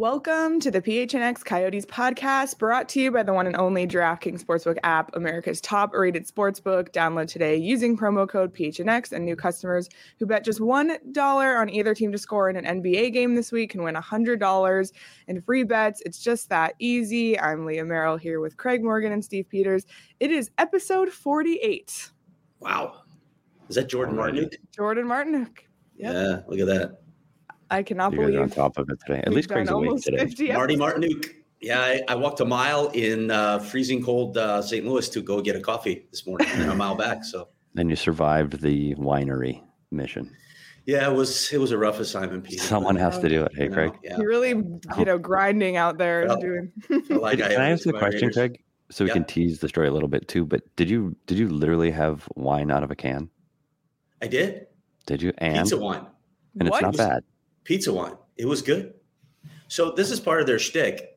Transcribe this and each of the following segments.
Welcome to the PHNX Coyotes podcast, brought to you by the one and only DraftKings Sportsbook app, America's top-rated sportsbook. Download today using promo code PHNX, and new customers who bet just $1 on either team to score in an NBA game this week can win $100 in free bets. It's just that easy. I'm Leah Merrill here with Craig Morgan and Steve Peters. It is episode 48. Wow. Is that Jordan Martinook? Jordan Martinook. Yep. Yeah, look at that. I cannot believe you're on top of it today. At least Craig's awake today. Marty Martinook. Yeah, I walked a mile in freezing cold St. Louis to go get a coffee this morning, and then a mile back. So then you survived the winery mission. Yeah, it was a rough assignment, Pete. Someone has to do it. Hey, Craig. Yeah. You're really, grinding out there. Can I ask the question, Craig? So we can tease the story a little bit too. But did you literally have wine out of a can? I did. Did you? And pizza wine. And it's not bad. Pizza wine. It was good. So this is part of their shtick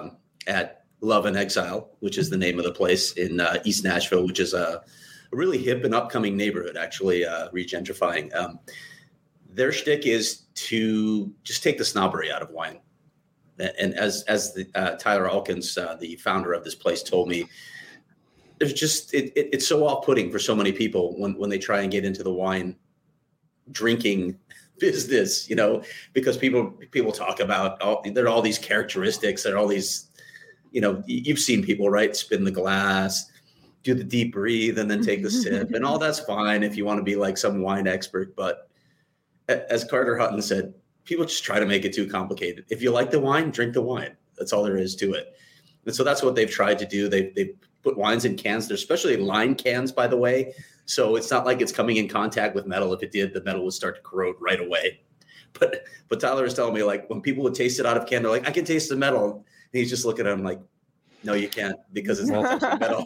at Love and Exile, which is the name of the place in East Nashville, which is a really hip and upcoming neighborhood, actually, regentrifying. Their shtick is to just take the snobbery out of wine. And as Tyler Alkins, the founder of this place, told me, there's just it's so off-putting for so many people when they try and get into the wine drinking business, because people talk about there are all these characteristics, there are all these, you've seen people, right? Spin the glass, do the deep breathe, and then take the sip, and all that's fine if you want to be like some wine expert. But as Carter Hutton said, people just try to make it too complicated. If you like the wine, drink the wine. That's all there is to it. And so that's what they've tried to do. They put wines in cans. They're especially line cans, by the way. So it's not like it's coming in contact with metal. If it did, the metal would start to corrode right away. But Tyler was telling me, like, when people would taste it out of can, they're like, I can taste the metal. And he's just looking at him like, no, you can't, because it's not metal.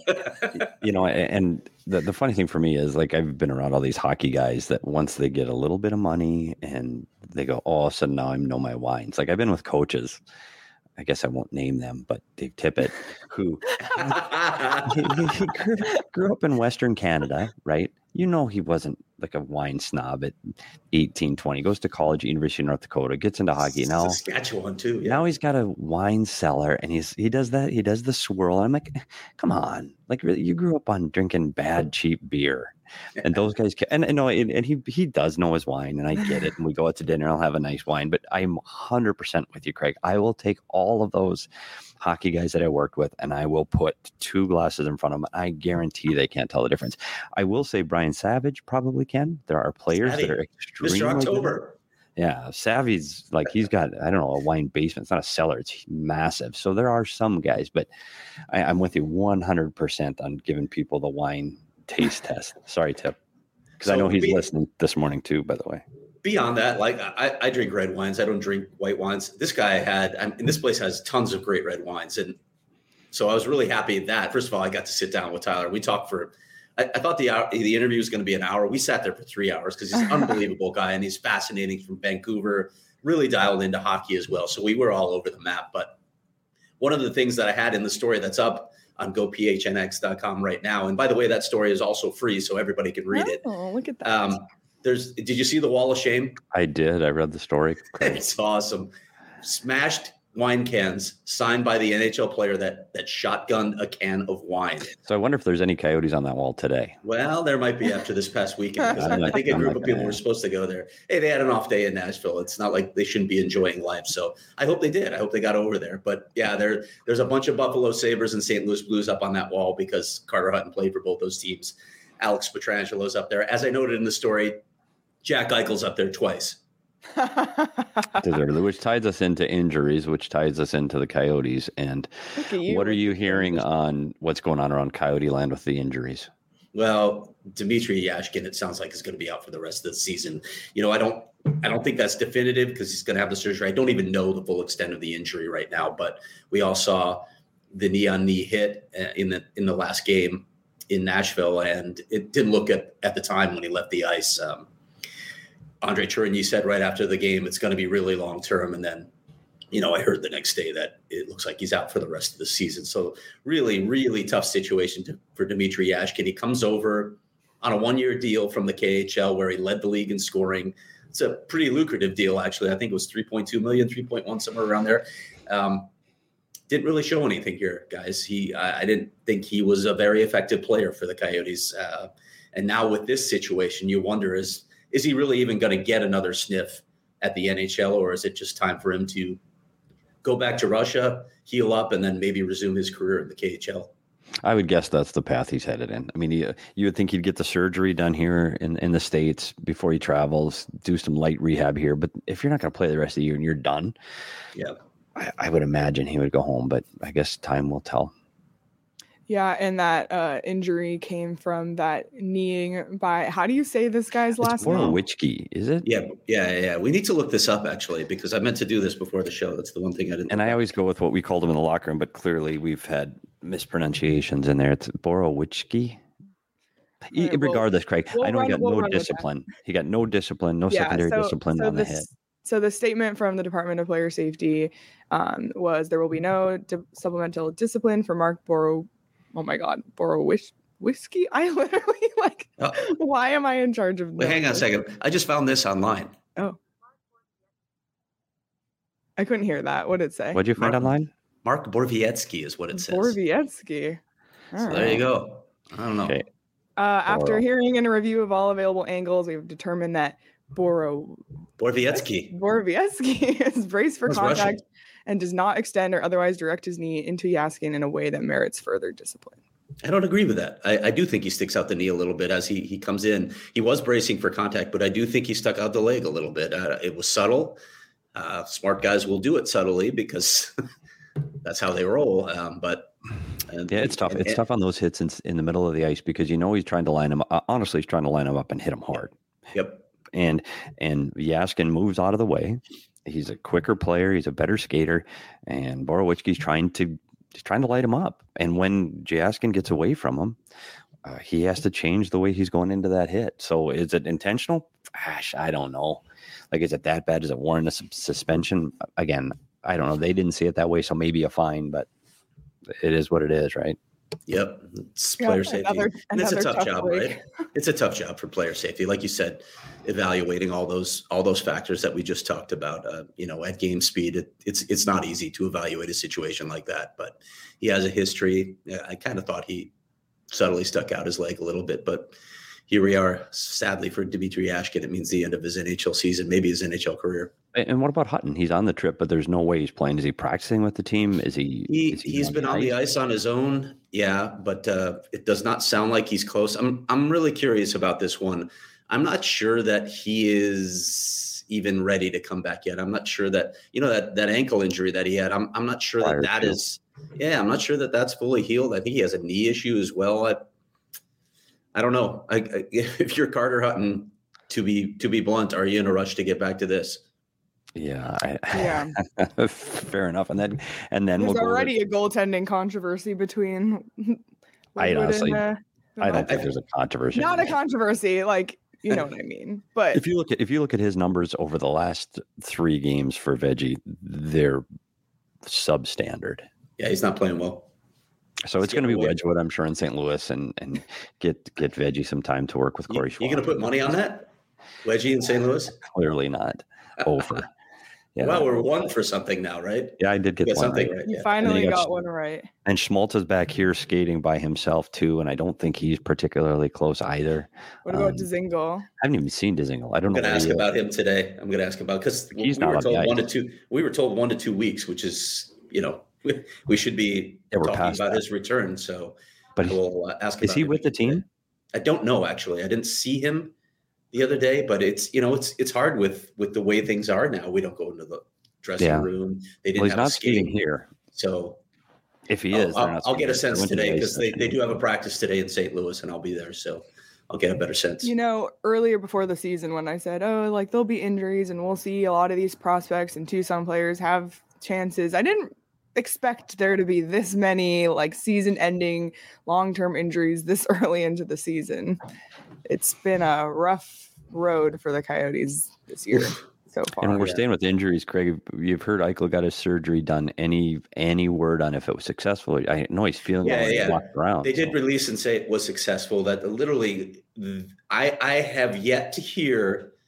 And the funny thing for me is, like, I've been around all these hockey guys that once they get a little bit of money and they go, oh, all of a sudden now I know my wines. Like, I've been with coaches. I guess I won't name them, but Dave Tippett, who he grew up in Western Canada, right? He wasn't like a wine snob at 18, 20. Goes to college at University of North Dakota, gets into hockey. Now Saskatchewan too. Yeah. Now he's got a wine cellar, and he does that. He does the swirl. And I'm like, come on, like, really, you grew up on drinking bad, cheap beer. And those guys and he does know his wine, and I get it. And we go out to dinner, I'll have a nice wine, but I'm 100% with you, Craig. I will take all of those hockey guys that I worked with, and I will put 2 glasses in front of them. I guarantee they can't tell the difference. I will say Brian Savage probably can. There are players that are extremely Mr. October. Good. Yeah, Savvy's like, he's got, I don't know, a wine basement. It's not a cellar. It's massive. So there are some guys, but I'm with you 100% on giving people the wine taste test. Sorry, Tip, because I know he's listening this morning too, by the way. Beyond that, like, I drink red wines. I don't drink white wines. This guy and this place has tons of great red wines. And so I was really happy that, first of all, I got to sit down with Tyler. We talked I thought the interview was going to be an hour. We sat there for 3 hours because he's an unbelievable guy, and he's fascinating, from Vancouver, really dialed into hockey as well. So we were all over the map. But one of the things that I had in the story that's up on gophnx.com right now, and by the way, that story is also free, so everybody can read it. Oh, look at that. Did you see the Wall of Shame? I did. I read the story. It's awesome. Smashed wine cans signed by the NHL player that shotgunned a can of wine. So I wonder if there's any Coyotes on that wall today. Well, there might be after this past weekend, because I think a group of people were supposed to go there. Hey, they had an off day in Nashville. It's not like they shouldn't be enjoying life. So I hope they did. I hope they got over there. But yeah, there's a bunch of Buffalo Sabres and St. Louis Blues up on that wall because Carter Hutton played for both those teams. Alex Petrangelo's up there. As I noted in the story, Jack Eichel's up there twice. Which ties us into injuries, which ties us into the Coyotes. And what are you hearing on what's going on around Coyote land with the injuries? Well, Dmitry Yashkin, it sounds like, is going to be out for the rest of the season. I don't think that's definitive because he's going to have the surgery. I don't even know the full extent of the injury right now, but we all saw the knee-on-knee hit in the last game in Nashville, and it didn't look at the time when he left the ice. Andre Tourigny said right after the game, it's going to be really long-term. And then, I heard the next day that it looks like he's out for the rest of the season. So really, really tough situation for Dmitry Yashkin. He comes over on a 1-year deal from the KHL where he led the league in scoring. it's a pretty lucrative deal, actually. I think it was 3.2 million, 3.1, somewhere around there. Didn't really show anything here, guys. I didn't think he was a very effective player for the Coyotes. And now with this situation, you wonder, is he really even going to get another sniff at the NHL, or is it just time for him to go back to Russia, heal up, and then maybe resume his career in the KHL? I would guess that's the path he's headed in. I mean, you would think he'd get the surgery done here in the States before he travels, do some light rehab here. But if you're not going to play the rest of the year and you're done, yeah, I would imagine he would go home. But I guess time will tell. Yeah, and that injury came from that kneeing by, how do you say this guy's last name? Borowiecki, is it? Yeah. We need to look this up, actually, because I meant to do this before the show. That's the one thing I didn't. And I always go with what we called him in the locker room, but clearly we've had mispronunciations in there. It's Borowiecki. Right, regardless, Craig, I know he got no discipline. He got no discipline, no secondary discipline on the hit. So the statement from the Department of Player Safety was there will be no supplemental discipline for Mark Borowiecki. I literally why am I in charge of this? Hang on a second. I just found this online. Oh. I couldn't hear that. What did it say? What'd you find online? Mark Borowiecki is what it says. Borowiecki. There you go. I don't know. Okay. After hearing and a review of all available angles, we've determined that Borowiecki is braced for contact Russian and does not extend or otherwise direct his knee into Jaskin in a way that merits further discipline. I don't agree with that. I do think he sticks out the knee a little bit as he comes in. He was bracing for contact, but I do think he stuck out the leg a little bit. It was subtle. Smart guys will do it subtly because that's how they roll. It's tough. It's tough on those hits in the middle of the ice because he's trying to line him. Honestly, he's trying to line him up and hit him hard. Yep. And Jaskin moves out of the way. He's a quicker player. He's a better skater. And Borowiecki's trying to light him up. And when Jaskin gets away from him, he has to change the way he's going into that hit. So is it intentional? Gosh, I don't know. Like, is it that bad? Does it warrant a suspension? Again, I don't know. They didn't see it that way, so maybe a fine, but it is what it is, right? Yep. It's player safety. It's a tough job, right? It's a tough job for player safety. Like you said, evaluating all those factors that we just talked about, at game speed, it's not easy to evaluate a situation like that, but he has a history. I kind of thought he subtly stuck out his leg a little bit, but here we are. Sadly for Dmitry Jaskin, it means the end of his NHL season, maybe his NHL career. And what about Hutton? He's on the trip, but there's no way he's playing. Is he practicing with the team? He's been on the ice on his own. Yeah, but it does not sound like he's close. I'm really curious about this one. I'm not sure that he is even ready to come back yet. I'm not sure that, that ankle injury that he had, I'm not sure that is. Yeah, I'm not sure that that's fully healed. I think he has a knee issue as well. I don't know. If you're Carter Hutton, to be blunt, are you in a rush to get back to this? Yeah. Fair enough. And then there's already a goaltending controversy between. I don't think there's a controversy. Not a controversy, like you know what I mean. But if you look at his numbers over the last 3 games for Veggie, they're substandard. Yeah, he's not playing well. So it's going to be Wedgwood, I'm sure, in St. Louis, and get Veggie some time to work with Corey Schwab. You going to put money on that? Wedgie in St. Louis? Clearly not. Over. Yeah. Well, we're 1 for something now, right? Yeah, I did get one something right. You finally got one right. And Schmaltz back here skating by himself too, and I don't think he's particularly close either. What about Dzingel? I haven't even seen Dzingel. I don't know. I'm going to ask about him today. I'm going to ask about because we were told 1 to 2. We were told 1 to 2 weeks, which is we should be talking about his return. So, but we'll ask. Is he with the team? I don't know. Actually, I didn't see him the other day, but it's hard with the way things are now. We don't go into the dressing room. They didn't he's not skating here. So if he is, I'll get a sense today because they do have a practice today in St. Louis, and I'll be there. So I'll get a better sense. Earlier before the season, when I said, there'll be injuries and we'll see a lot of these prospects and Tucson players have chances, I didn't expect there to be this many season-ending long-term injuries this early into the season. It's been a rough road for the Coyotes this year so far. And we're staying with injuries, Craig. You've heard Eichel got his surgery done. Any word on if it was successful? I know he's feeling walked around. They did release and say it was successful. That literally, I have yet to hear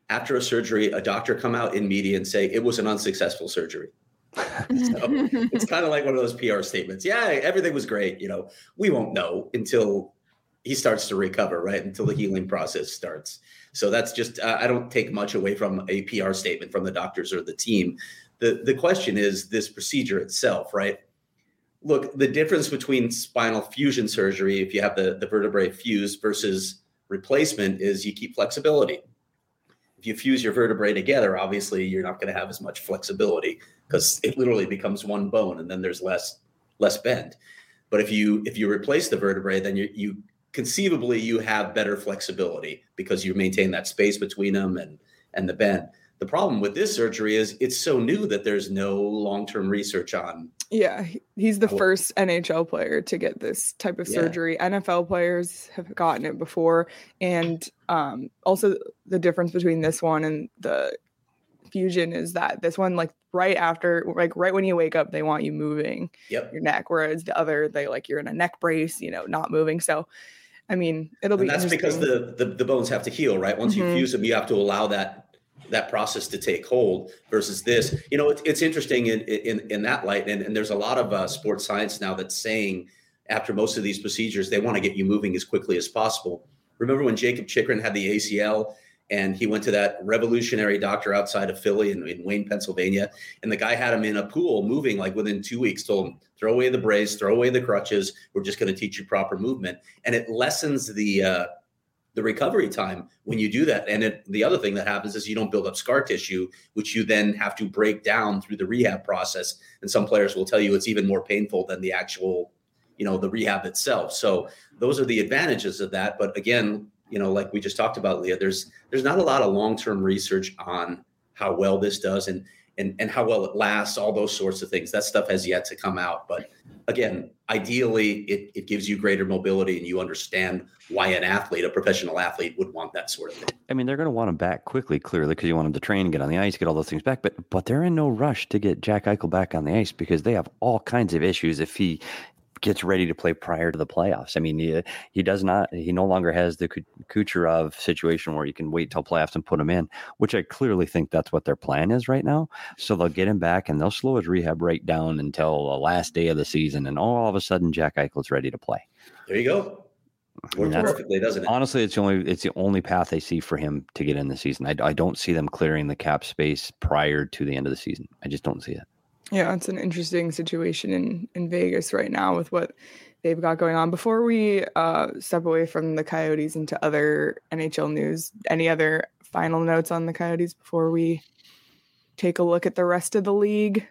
after a surgery, a doctor come out in media and say it was an unsuccessful surgery. So it's kind of like one of those PR statements. Yeah, everything was great. We won't know until he starts to recover, right? Until the healing process starts. So that's just, I don't take much away from a PR statement from the doctors or the team. The question is this procedure itself, right? Look, the difference between spinal fusion surgery, if you have the vertebrae fused versus replacement, is you keep flexibility. If you fuse your vertebrae together, obviously you're not going to have as much flexibility because it literally becomes one bone and then there's less bend. But if you replace the vertebrae, then you conceivably you have better flexibility because you maintain that space between them and the bend. The problem with this surgery is it's so new that there's no long-term research on. Yeah, he's the first NHL player to get this type of surgery. NFL players have gotten it before. And also the difference between this one and the fusion is that this one, right when you wake up, they want you moving your neck, whereas the other, you're in a neck brace, not moving. So, I mean, it'll be that's because the bones have to heal, right? Once you fuse them, you have to allow that process to take hold versus this. It's interesting in that light. And there's a lot of sports science now that's saying after most of these procedures, they want to get you moving as quickly as possible. Remember when Jacob Chikrin had the ACL and he went to that revolutionary doctor outside of Philly in Wayne, Pennsylvania, and the guy had him in a pool moving like within 2 weeks, told him, throw away the brace, throw away the crutches. We're just going to teach you proper movement. And it lessens the recovery time when you do that. And the other thing that happens is you don't build up scar tissue, which you then have to break down through the rehab process. And some players will tell you it's even more painful than the actual, the rehab itself. So those are the advantages of that. But again, like we just talked about, Leah, there's not a lot of long-term research on how well this does and how well it lasts, all those sorts of things. That stuff has yet to come out. But again, ideally, it gives you greater mobility and you understand why a professional athlete would want that sort of thing. I mean, they're going to want him back quickly, clearly, because you want him to train, get on the ice, get all those things back. But they're in no rush to get Jack Eichel back on the ice because they have all kinds of issues if he gets ready to play prior to the playoffs. I mean, he no longer has the Kucherov situation where you can wait till playoffs and put him in, which I clearly think that's what their plan is right now. So they'll get him back and they'll slow his rehab right down until the last day of the season. And all of a sudden, Jack Eichel's ready to play. There you go. Works perfectly, doesn't it? Honestly, it's the only path I see for him to get in the season. I don't see them clearing the cap space prior to the end of the season. I just don't see it. Yeah, it's an interesting situation in Vegas right now with what they've got going on. Before we step away from the Coyotes into other NHL news, any other final notes on the Coyotes before we take a look at the rest of the league?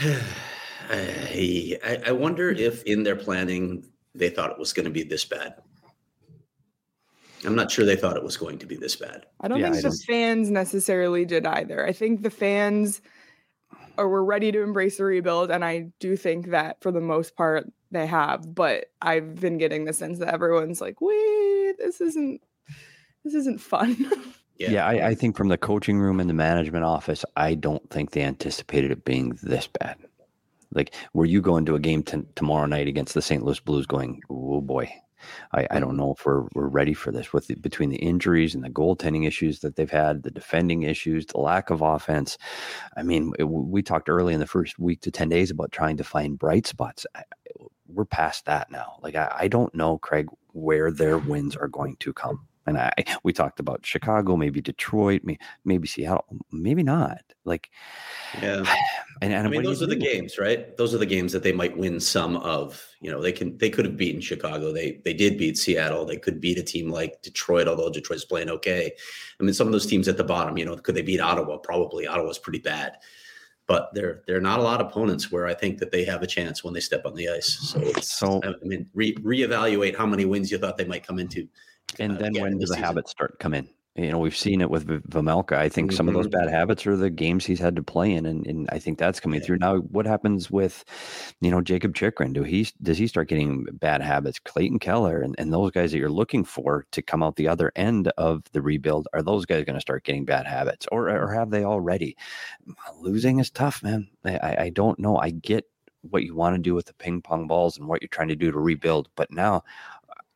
I wonder if in their planning they thought it was going to be this bad. I'm not sure they thought it was going to be this bad. I don't think the fans necessarily did either. I think the fans were ready to embrace the rebuild, and I do think that for the most part they have. But I've been getting the sense that everyone's like, "Wait, this isn't fun." Yeah, I think from the coaching room and the management office, I don't think they anticipated it being this bad. Like, were you going to a game tomorrow night against the St. Louis Blues going, oh boy, I don't know if we're ready for this between the injuries and the goaltending issues that they've had, the defending issues, the lack of offense. I mean, we talked early in the first week to 10 days about trying to find bright spots. We're past that now. Like, I don't know, Craig, where their wins are going to come. And we talked about Chicago, maybe Detroit, maybe Seattle, maybe not. Like, yeah. And I mean, those are the games, right? Those are the games that they might win some of. They could have beaten Chicago. They did beat Seattle. They could beat a team like Detroit, although Detroit's playing okay. I mean, some of those teams at the bottom, could they beat Ottawa? Probably. Ottawa's pretty bad. But there are not a lot of opponents where I think that they have a chance when they step on the ice. So I mean, reevaluate how many wins you thought they might come into. And then when do the habits start to come in? We've seen it with Vejmelka. I think some of those bad habits are the games he's had to play in, and I think that's coming through. Now, what happens with, Jacob Chikrin? Does he start getting bad habits? Clayton Keller and those guys that you're looking for to come out the other end of the rebuild, are those guys going to start getting bad habits, or have they already? Losing is tough, man. I don't know. I get what you want to do with the ping pong balls and what you're trying to do to rebuild, but now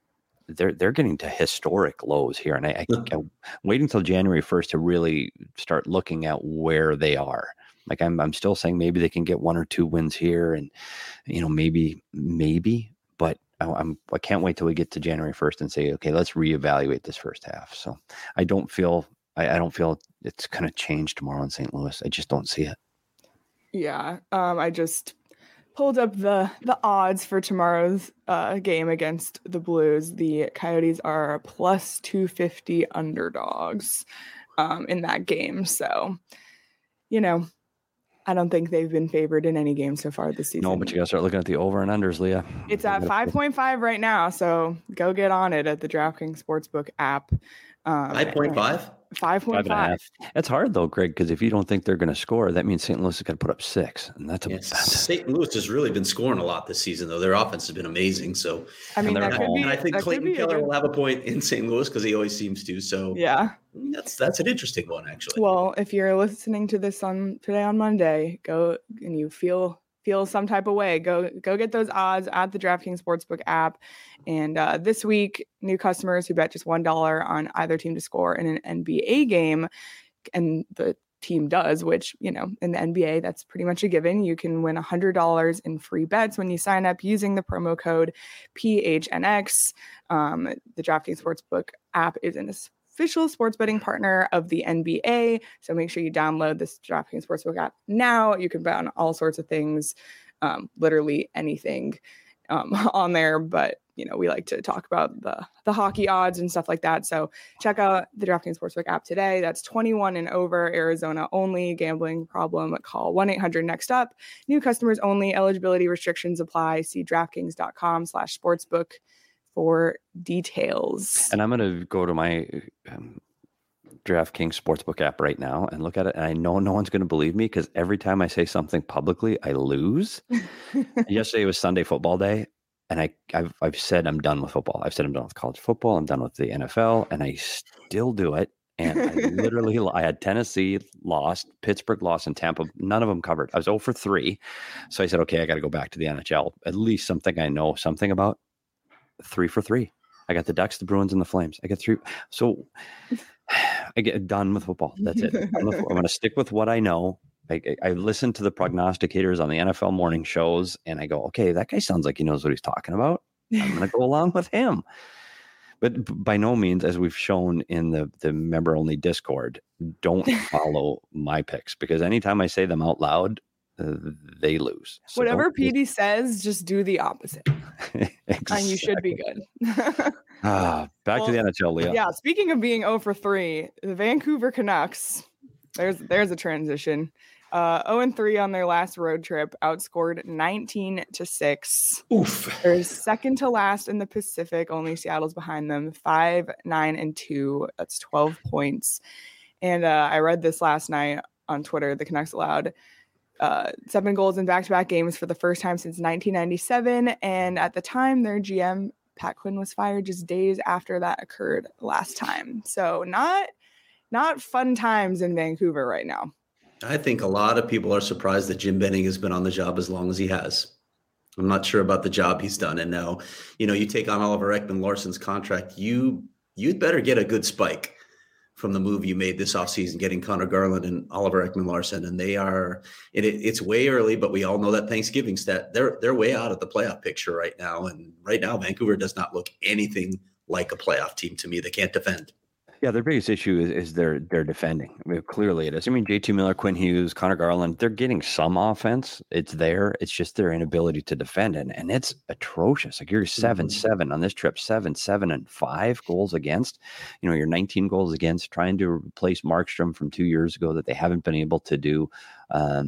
they're getting to historic lows here. And I'm waiting until January 1st to really start looking at where they are. Like I'm still saying maybe they can get 1 or 2 wins here, and maybe, but I can't wait till we get to January 1st and say, okay, let's reevaluate this first half. So I don't feel it's going to change tomorrow in St. Louis. I just don't see it. Yeah. I just pulled up the odds for tomorrow's game against the Blues. The Coyotes are plus 250 underdogs in that game. So, I don't think they've been favored in any game so far this season. No, but you got to start looking at the over and unders, Leah. It's at 5.5 right now, so go get on it at the DraftKings Sportsbook app. 5.5? 5.5. It's hard though, Greg, because if you don't think they're going to score, that means St. Louis is going to put up 6, and that's St. Louis has really been scoring a lot this season, though. Their offense has been amazing. So I mean, I think Clayton Keller will have a point in St. Louis because he always seems to. So yeah, that's an interesting one, actually. Well, if you're listening to this today on Monday, go and you feel some type of way, go get those odds at the DraftKings Sportsbook app. And this week, new customers who bet just $1 on either team to score in an NBA game, and the team does, which, in the NBA, that's pretty much a given. You can win $100 in free bets when you sign up using the promo code PHNX. The DraftKings Sportsbook app is an official sports betting partner of the NBA. So make sure you download this DraftKings Sportsbook app now. You can bet on all sorts of things, literally anything on there. But, we like to talk about the hockey odds and stuff like that. So check out the DraftKings Sportsbook app today. That's 21 and over, Arizona only. Gambling problem, call 1-800-NEXT-UP. New customers only. Eligibility restrictions apply. See DraftKings.com/sportsbook for details. And I'm going to go to my DraftKings Sportsbook app right now and look at it. And I know no one's going to believe me because every time I say something publicly, I lose. Yesterday was Sunday football day. And I've said I'm done with football. I've said I'm done with college football. I'm done with the NFL. And I still do it. And I had Tennessee lost, Pittsburgh lost, and Tampa. None of them covered. I was 0 for 3. So I said, okay, I got to go back to the NHL. At least something I know something about. 3 for 3. I got the Ducks, the Bruins, and the Flames. I got 3. So I get done with football. That's it. I'm going to stick with what I know. I listen to the prognosticators on the NFL morning shows, and I go, okay, that guy sounds like he knows what he's talking about. I'm going to go along with him. But by no means, as we've shown in the member-only Discord, don't follow my picks, because anytime I say them out loud, they lose. So whatever PD says, just do the opposite. Exactly. And you should be good. Back to the NHL, Leah. Yeah, speaking of being 0 for 3, the Vancouver Canucks, there's a transition. 0-3 on their last road trip, outscored 19-6. Oof. They're second to last in the Pacific. Only Seattle's behind them. 5-9-2. That's 12 points. And I read this last night on Twitter. The Canucks allowed 7 goals in back-to-back games for the first time since 1997. And at the time, their GM, Pat Quinn, was fired just days after that occurred last time. So not fun times in Vancouver right now. I think a lot of people are surprised that Jim Benning has been on the job as long as he has. I'm not sure about the job he's done. And now, you take on Oliver Ekman-Larsson's contract, you'd better get a good spike from the move you made this offseason, getting Connor Garland and Oliver Ekman-Larsson. And they are, it's way early, but we all know that Thanksgiving stat, they're way out of the playoff picture right now. And right now, Vancouver does not look anything like a playoff team to me. They can't defend. Yeah, their biggest issue is their defending. I mean, clearly it is. I mean, JT Miller, Quinn Hughes, Connor Garland, they're getting some offense. It's there. It's just their inability to defend. And it's atrocious. Like you're 7-7 on this trip, 7-7-5 goals against. You're 19 goals against, trying to replace Markstrom from 2 years ago that they haven't been able to do. I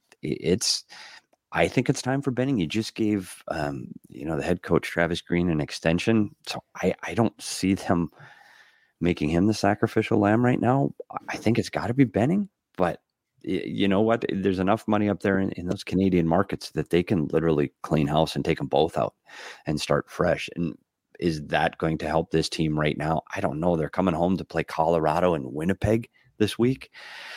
think it's time for Benning. You just gave, the head coach, Travis Green, an extension. So I don't see them making him the sacrificial lamb right now. I think it's got to be Benning, but you know what? There's enough money up there in those Canadian markets that they can literally clean house and take them both out and start fresh. And is that going to help this team right now? I don't know. They're coming home to play Colorado and Winnipeg this week.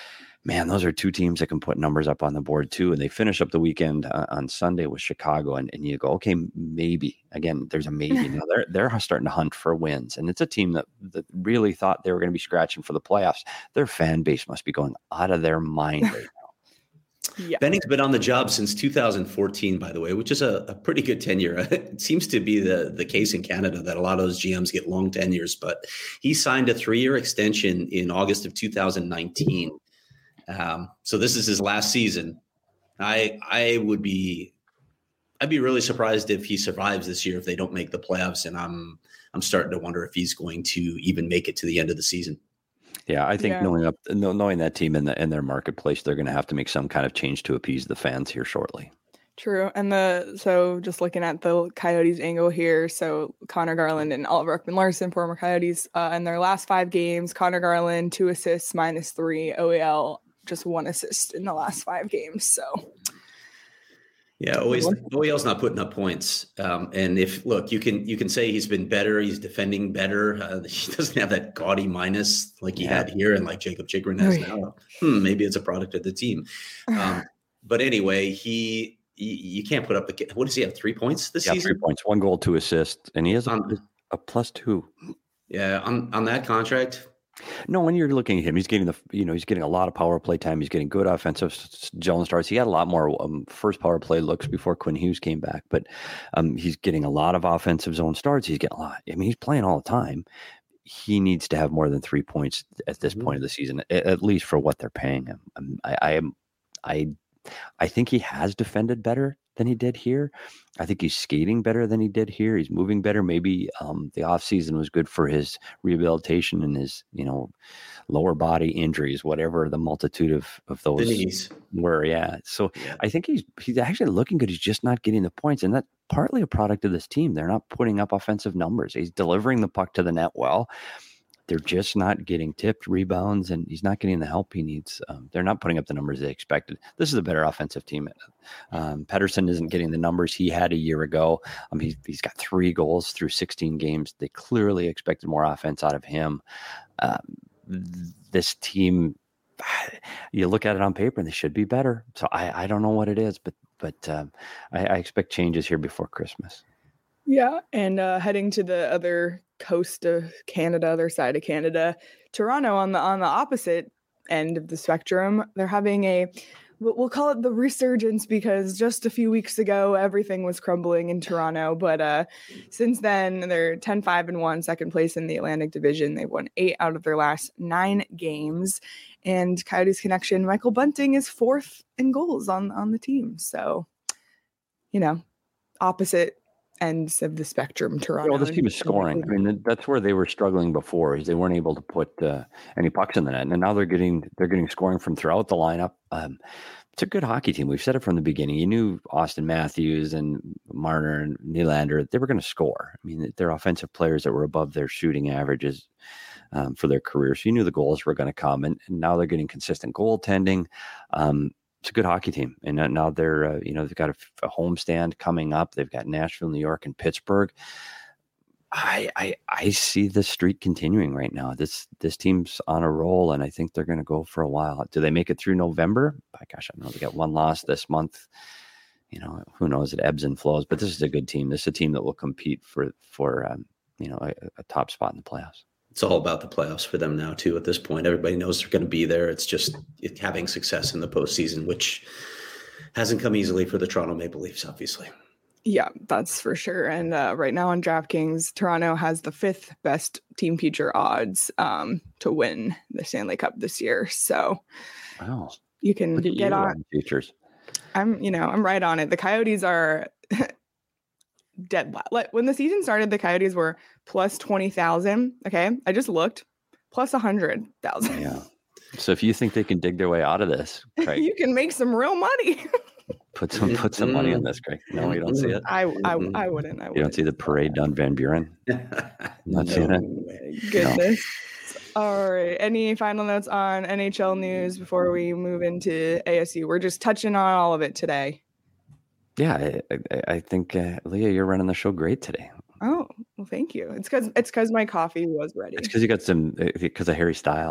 Man, those are two teams that can put numbers up on the board too. And they finish up the weekend on Sunday with Chicago. And you go, okay, maybe. Again, there's a maybe. Now they're starting to hunt for wins. And it's a team that really thought they were going to be scratching for the playoffs. Their fan base must be going out of their mind right now. Yeah. Benning's been on the job since 2014, by the way, which is a pretty good tenure. It seems to be the case in Canada that a lot of those GMs get long tenures, but he signed a 3-year extension in August of 2019. So this is his last season. I'd be really surprised if he survives this year if they don't make the playoffs, and I'm starting to wonder if he's going to even make it to the end of the season. Yeah, I think knowing that team in their marketplace, they're going to have to make some kind of change to appease the fans here shortly. True. And so just looking at the Coyotes angle here, so Connor Garland and Oliver Ekman-Larsson, former Coyotes, in their last 5 games, Connor Garland 2 assists, -3, OEL just 1 assist in the last 5 games. So yeah, OEL's not putting up points. And you can say he's been better, he's defending better. He doesn't have that gaudy minus like he had here and like Jacob Chikrin has now. Maybe it's a product of the team. But anyway, you can't put up what does he have? 3 points this season? 3 points, 1 goal, 2 assists, and he has a +2. Yeah, on that contract. No, when you're looking at him, he's getting he's getting a lot of power play time. He's getting good offensive zone starts. He had a lot more first power play looks before Quinn Hughes came back, but he's getting a lot of offensive zone starts. He's getting a lot. I mean, he's playing all the time. He needs to have more than 3 points at this point of the season, at least for what they're paying him. I think he has defended better than he did here. I think he's skating better than he did here. He's moving better. Maybe the offseason was good for his rehabilitation and his, lower body injuries, whatever the multitude of those were. Yeah. So I think he's actually looking good. He's just not getting the points. And that's partly a product of this team. They're not putting up offensive numbers. He's delivering the puck to the net well. They're just not getting tipped rebounds, and he's not getting the help he needs. They're not putting up the numbers they expected. This is a better offensive team. Pettersson isn't getting the numbers he had a year ago. He's got 3 goals through 16 games. They clearly expected more offense out of him. This team, you look at it on paper, and they should be better. So I don't know what it is, but I expect changes here before Christmas. Yeah, and heading to the other coast of Canada, other side of Canada, Toronto on the opposite end of the spectrum, they're having we'll call it the resurgence, because just a few weeks ago everything was crumbling in Toronto, but since then they're 10-5-1, second place in the Atlantic Division. They've won 8 out of their last 9 games, and Coyotes connection Michael Bunting is 4th in goals on the team. So, opposite ends of the spectrum, Toronto. Well, this team is scoring. I mean, that's where they were struggling before, is they weren't able to put any pucks in the net, and now they're getting scoring from throughout the lineup. It's a good hockey team. We've said it from the beginning. You knew Austin Matthews and Marner and Nylander, they were going to score. I mean, they're offensive players that were above their shooting averages for their careers. So you knew the goals were going to come, and now they're getting consistent goaltending. It's a good hockey team, and now they're they've got a homestand coming up. They've got Nashville, New York, and Pittsburgh. I see the streak continuing right now. This team's on a roll, and I think they're going to go for a while. Do they make it through November? Gosh, I know they got 1 loss this month. Who knows? It ebbs and flows, but this is a good team. This is a team that will compete for a top spot in the playoffs. It's all about the playoffs for them now, too, at this point. Everybody knows they're going to be there. It's just having success in the postseason, which hasn't come easily for the Toronto Maple Leafs, obviously. Yeah, that's for sure. And right now on DraftKings, Toronto has the 5th best team future odds to win the Stanley Cup this year. So wow, you can get on futures. I'm right on it. The Coyotes are dead. When the season started, the Coyotes were plus 20,000. Okay, I just looked, plus 100,000. Yeah. So if you think they can dig their way out of this, Craig, you can make some real money. put some money on this, Craig. No, you don't see it. I wouldn't. You don't see the parade down Van Buren. Not seeing it. Goodness. No. All right. Any final notes on NHL news before we move into ASU? We're just touching on all of it today. Yeah, I think Leah, you're running the show great today. Oh, well, thank you. It's because my coffee was ready. It's because you got because of Harry Styles.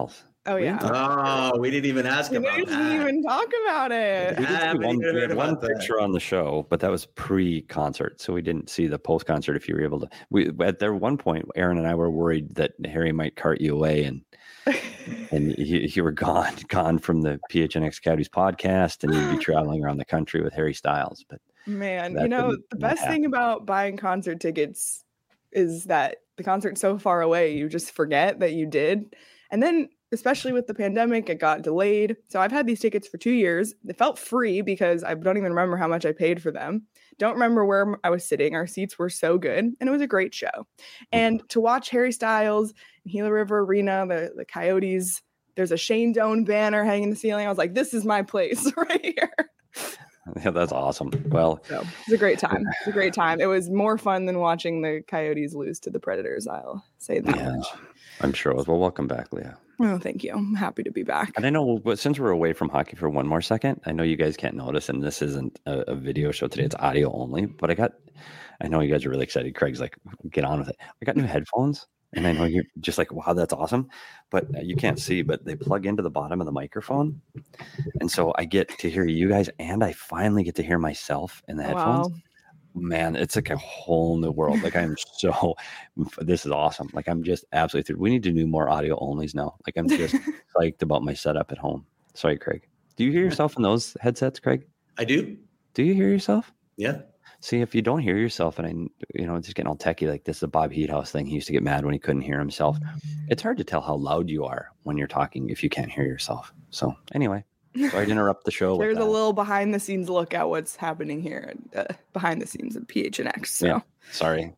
Oh yeah. Oh, we didn't even ask We about didn't that. even talk about it. We had one about that. picture on the show, but that was pre-concert, so we didn't see the post-concert. If you were able to, at there one point, Aaron and I were worried that Harry might cart you away, and you were gone from the PHNX Coyotes podcast, and you'd be traveling around the country with Harry Styles. But Man, that the didn't best thing happen. about buying concert tickets is that the concert's so far away, you just forget that you did. And then, especially with the pandemic, it got delayed. So I've had these tickets for 2 years. They felt free because I don't even remember how much I paid for them. Don't remember where I was sitting. Our seats were so good, and it was a great show. And to watch Harry Styles in Gila River Arena, the Coyotes, there's a Shane Doan banner hanging in the ceiling. I was like, this is my place right here. Yeah, that's awesome. Well, So it's a great time. It's a great time. It was more fun than watching the Coyotes lose to the Predators. I'll say that yeah, much. I'm sure it was. Well, welcome back, Leah. Oh, thank you. I'm happy to be back. And I know, but since we're away from hockey for one more second, I know you guys can't notice, and this isn't a video show today; it's audio only. But I know you guys are really excited. Craig's like, get on with it. I got new headphones, and I know you're just like, wow, that's awesome. But you can't see, but they plug into the bottom of the microphone, and so I get to hear you guys, and I finally get to hear myself in the headphones. Wow. Man, it's like a whole new world. Like this is awesome. Like I'm just absolutely through. We need to do more audio onlys now. Like I'm just psyched about my setup at home. Sorry, Craig. Do you hear yourself in those headsets, Craig? I do. Do you hear yourself? Yeah. See, if you don't hear yourself, and just getting all techie, like this is a Bob Heathouse thing. He used to get mad when he couldn't hear himself. It's hard to tell how loud you are when you're talking if you can't hear yourself. So anyway. Sorry to interrupt the show. There's a little behind the scenes look at what's happening here behind the scenes of PHNX. So. Yeah, sorry.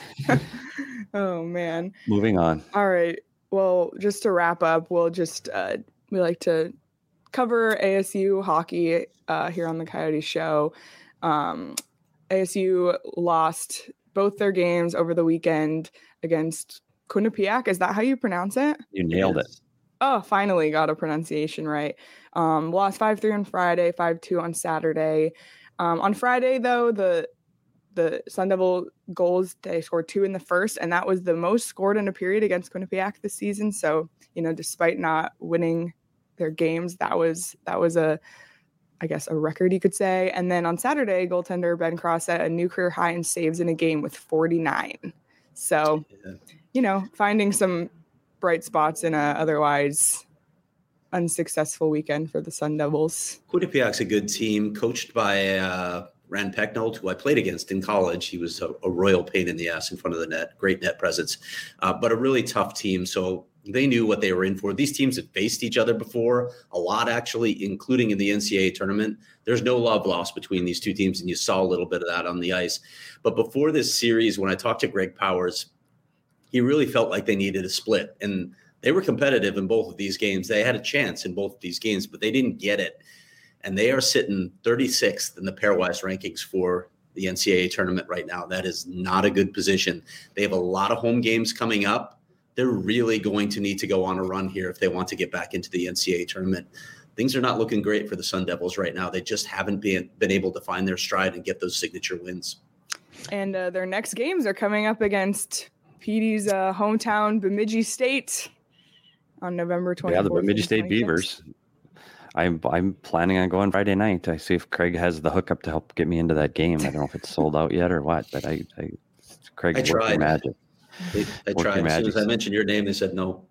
Oh, man. Moving on. All right. Well, just to wrap up, we'll just, we like to cover ASU hockey here on the Coyote Show. ASU lost both their games over the weekend against Quinnipiac. Is that how you pronounce it? You nailed it. Oh, finally got a pronunciation right. Lost 5-3 on Friday, 5-2 on Saturday. On Friday, though, the Sun Devil goals, they scored 2 in the first, and that was the most scored in a period against Quinnipiac this season. So, despite not winning their games, that was a record, you could say. And then on Saturday, goaltender Ben Cross set a new career high in saves in a game with 49. So, finding some bright spots in a otherwise unsuccessful weekend for the Sun Devils. Quinnipiac's a good team, coached by Rand Pecknold, who I played against in college. He was a royal pain in the ass in front of the net, great net presence, but a really tough team. So they knew what they were in for. These teams have faced each other before, a lot actually, including in the NCAA tournament. There's no love lost between these two teams, and you saw a little bit of that on the ice. But before this series, when I talked to Greg Powers, he really felt like they needed a split, and they were competitive in both of these games. They had a chance in both of these games, but they didn't get it. And they are sitting 36th in the pairwise rankings for the NCAA tournament right now. That is not a good position. They have a lot of home games coming up. They're really going to need to go on a run here if they want to get back into the NCAA tournament. Things are not looking great for the Sun Devils right now. They just haven't been able to find their stride and get those signature wins. And their next games are coming up against PD's hometown, Bemidji State, on November 24th. Yeah, the Bemidji State Beavers. I'm planning on going Friday night. I see if Craig has the hookup to help get me into that game. I don't know if it's sold out yet or what, but Craig, I tried. Magic. I tried. As soon as I mentioned your name, they said no.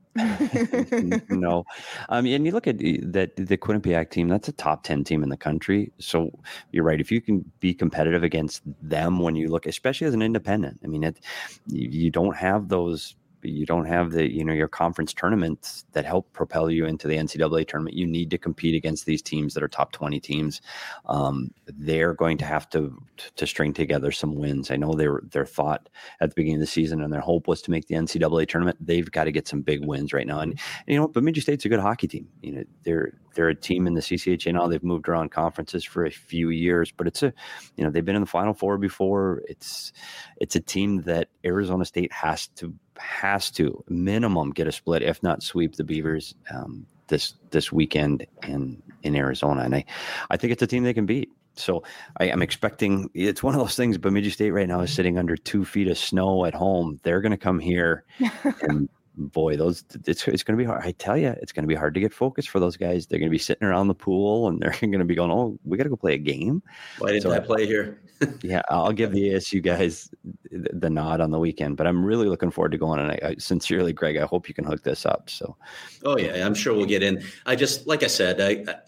No. And you look at the Quinnipiac team, that's a top 10 team in the country. So you're right. If you can be competitive against them when you look, especially as an independent, I mean, you don't have those. You don't have your conference tournaments that help propel you into the NCAA tournament. You need to compete against these teams that are top 20 teams. They're going to have to string together some wins. I know their thought at the beginning of the season and their hope was to make the NCAA tournament. They've got to get some big wins right now. And Bemidji State's a good hockey team. They're a team in the CCHA now. They've moved around conferences for a few years, but they've been in the Final Four before. It's a team that Arizona State has to minimum get a split, if not sweep the Beavers this weekend in Arizona. And I think it's a team they can beat. So I'm expecting, it's one of those things. Bemidji State right now is sitting under 2 feet of snow at home. They're going to come here and boy, it's going to be hard. I tell you, it's going to be hard to get focused for those guys. They're going to be sitting around the pool and they're going to be going, "Oh, we got to go play a game." Why didn't I play here? Yeah, I'll give the ASU guys the nod on the weekend, but I'm really looking forward to going. And I sincerely, Greg, I hope you can hook this up. So, oh yeah, I'm sure we'll get in. I just, like I said,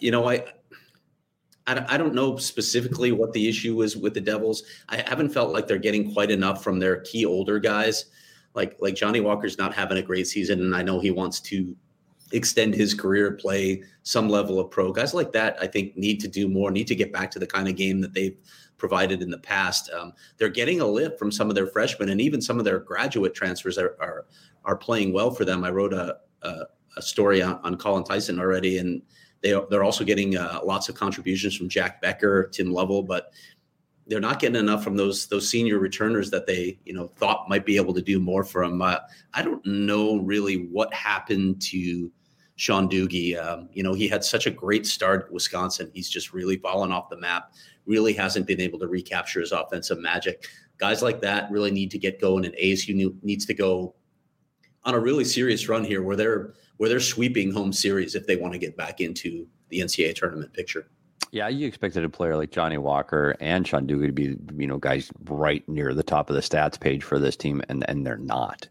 I don't know specifically what the issue is with the Devils. I haven't felt like they're getting quite enough from their key older guys. Like Johnny Walker's not having a great season, and I know he wants to extend his career, play some level of pro. Guys like that, I think, need to do more, need to get back to the kind of game that they've provided in the past. They're getting a lift from some of their freshmen, and even some of their graduate transfers are playing well for them. I wrote a story on Colin Tyson already, and they're also getting lots of contributions from Jack Becker, Tim Lovell, but they're not getting enough from those senior returners that they thought might be able to do more from. I don't know really what happened to Sean Doogie. He had such a great start at Wisconsin. He's just really fallen off the map. Really hasn't been able to recapture his offensive magic. Guys like that really need to get going, and ASU needs to go on a really serious run here where they're sweeping home series if they want to get back into the NCAA tournament picture. Yeah, you expected a player like Johnny Walker and Sean Doogie to be, guys right near the top of the stats page for this team, and they're not.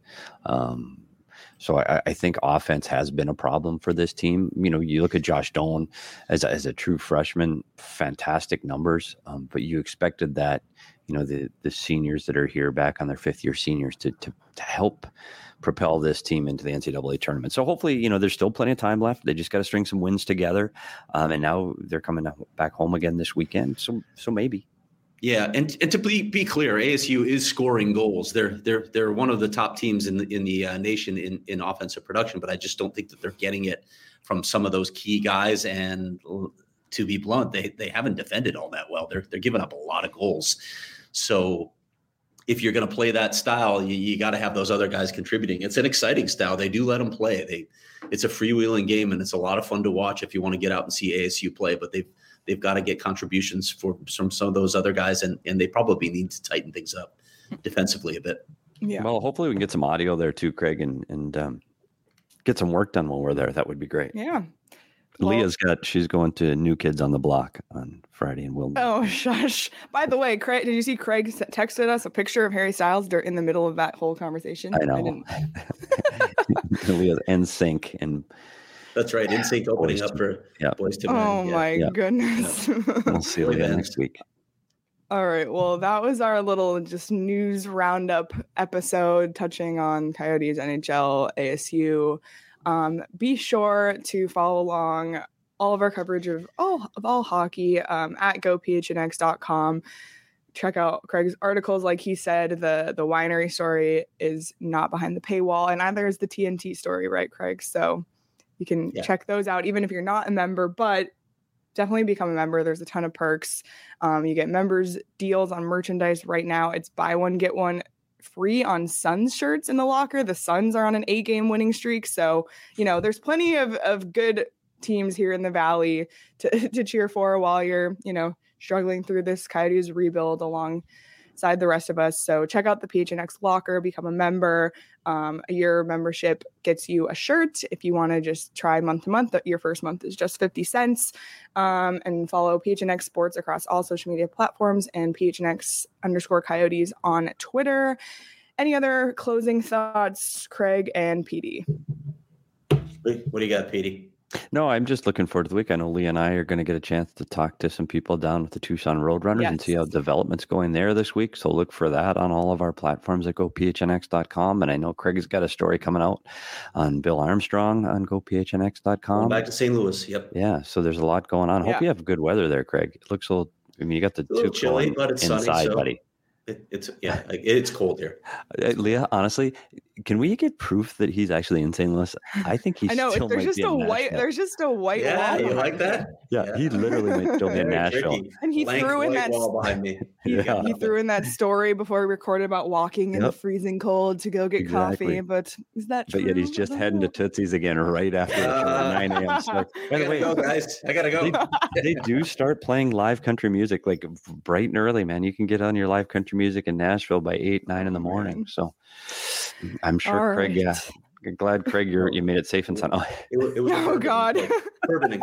So I think offense has been a problem for this team. You look at Josh Dolan as a true freshman, fantastic numbers, but you expected that, the seniors that are here back on their fifth year seniors to help propel this team into the NCAA tournament. So hopefully, there's still plenty of time left. They just got to string some wins together. And now they're coming back home again this weekend. So maybe. Yeah. And to be clear, ASU is scoring goals. They're one of the top teams in the nation in offensive production, but I just don't think that they're getting it from some of those key guys. And to be blunt, they haven't defended all that well. They're giving up a lot of goals. So if you're going to play that style, you got to have those other guys contributing. It's an exciting style. They do let them play. It's a freewheeling game, and it's a lot of fun to watch if you want to get out and see ASU play. But they've got to get contributions from some of those other guys, and they probably need to tighten things up defensively a bit. Yeah. Well, hopefully we can get some audio there too, Craig, and get some work done while we're there. That would be great. Yeah. Well, she's going to New Kids on the Block on Friday, and we'll. Oh, shush! By the way, Craig, did you see Craig texted us a picture of Harry Styles in the middle of that whole conversation? I know. Leah's NSYNC and. That's right, NSYNC opening up for Boys to Men. Oh my goodness! We'll see Leah next week. All right. Well, that was our little just news roundup episode touching on Coyotes, NHL, ASU. Be sure to follow along all of our coverage of all hockey at gophnx.com. Check out Craig's articles. Like he said, the winery story is not behind the paywall, and neither is the TNT story, right, Craig? So you can check those out, even if you're not a member, but definitely become a member. There's a ton of perks. You get members deals on merchandise right now. It's buy one, get one free on Suns shirts in the locker. The Suns are on an 8-game winning streak. So, there's plenty of good teams here in the Valley to cheer for while you're, struggling through this Coyotes rebuild alongside the rest of us. So check out the PHNX locker, become a member. A year membership gets you a shirt. If you want to just try month to month, your first month is just 50 cents. And follow PHNX Sports across all social media platforms and PHNX_Coyotes on Twitter. Any other closing thoughts, Craig and PD? What do you got, PD? No, I'm just looking forward to the week. I know Lee and I are going to get a chance to talk to some people down with the Tucson Roadrunners and see how development's going there this week. So look for that on all of our platforms at gophnx.com. And I know Craig has got a story coming out on Bill Armstrong on gophnx.com. Back to St. Louis. Yep. Yeah. So there's a lot going on. Hope you have good weather there, Craig. It looks a little, you got the tube chilly, but it's inside, sunny, so buddy. It's cold here. Leah, honestly, can we get proof that he's actually in St. Louis? I think he's. I know still there's just a white. There's just a white wall. Yeah, you like that? Yeah, he literally might still be in Nashville. And he threw in that wall behind me. He threw in that story before we recorded about walking in the freezing cold to go get coffee. But is that true? But yet he's just heading to Tootsie's again right after 9 a.m. start. By the way, guys, I gotta go. They do start playing live country music like bright and early, man. You can get on your live country music in Nashville by 8, 9 in the morning. So I'm sure Craig Glad, Craig, you made it safe and sound. Oh. It was Oh God. Bourbon.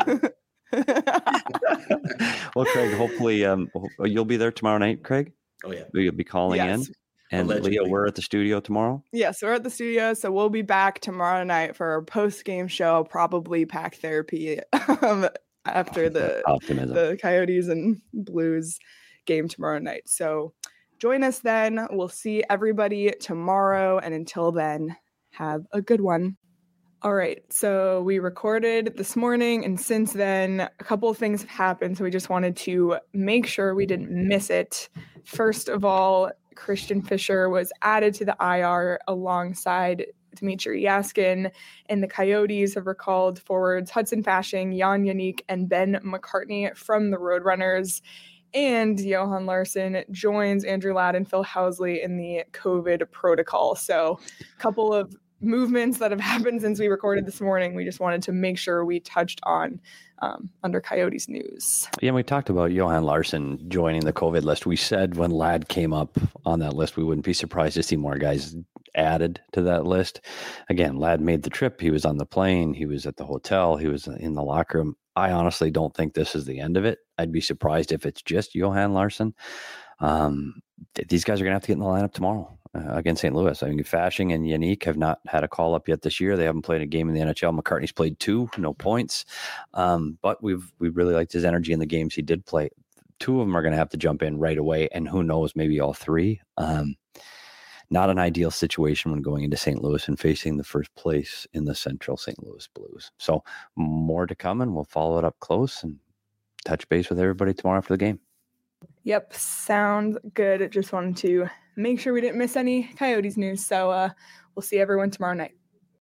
Well, Craig, hopefully you'll be there tomorrow night, Craig. Oh yeah, You'll be calling in. And allegedly. Leah, we're at the studio tomorrow. Yes, we're at the studio, so we'll be back tomorrow night for our post-game show. Probably pack therapy after the Coyotes and Blues game tomorrow night. So join us then. We'll see everybody tomorrow, and until then, have a good one. All right, so we recorded this morning, and since then, a couple of things have happened, so we just wanted to make sure we didn't miss it. First of all, Christian Fischer was added to the IR alongside Dmitry Yaskin, and the Coyotes have recalled forwards Hudson Fasching, Jan Yannick, and Ben McCartney from the Roadrunners. And Johan Larsson joins Andrew Ladd and Phil Housley in the COVID protocol. So a couple of movements that have happened since we recorded this morning. We just wanted to make sure we touched on under Coyotes news. Yeah, we talked about Johan Larsson joining the COVID list. We said when Ladd came up on that list, we wouldn't be surprised to see more guys added to that list. Again, Ladd made the trip. He was on the plane. He was at the hotel. He was in the locker room. I honestly don't think this is the end of it. I'd be surprised if it's just Johan Larsson. These guys are going to have to get in the lineup tomorrow against St. Louis. I mean, Fasching and Yannick have not had a call up yet this year. They haven't played a game in the NHL. McCartney's played 2, no points. But we really liked his energy in the games he did play. 2 of them are going to have to jump in right away, and who knows, maybe all 3. Not an ideal situation when going into St. Louis and facing the first place in the Central St. Louis Blues. So more to come, and we'll follow it up close and touch base with everybody tomorrow after the game. Yep, sounds good. Just wanted to make sure we didn't miss any Coyotes news. So we'll see everyone tomorrow night.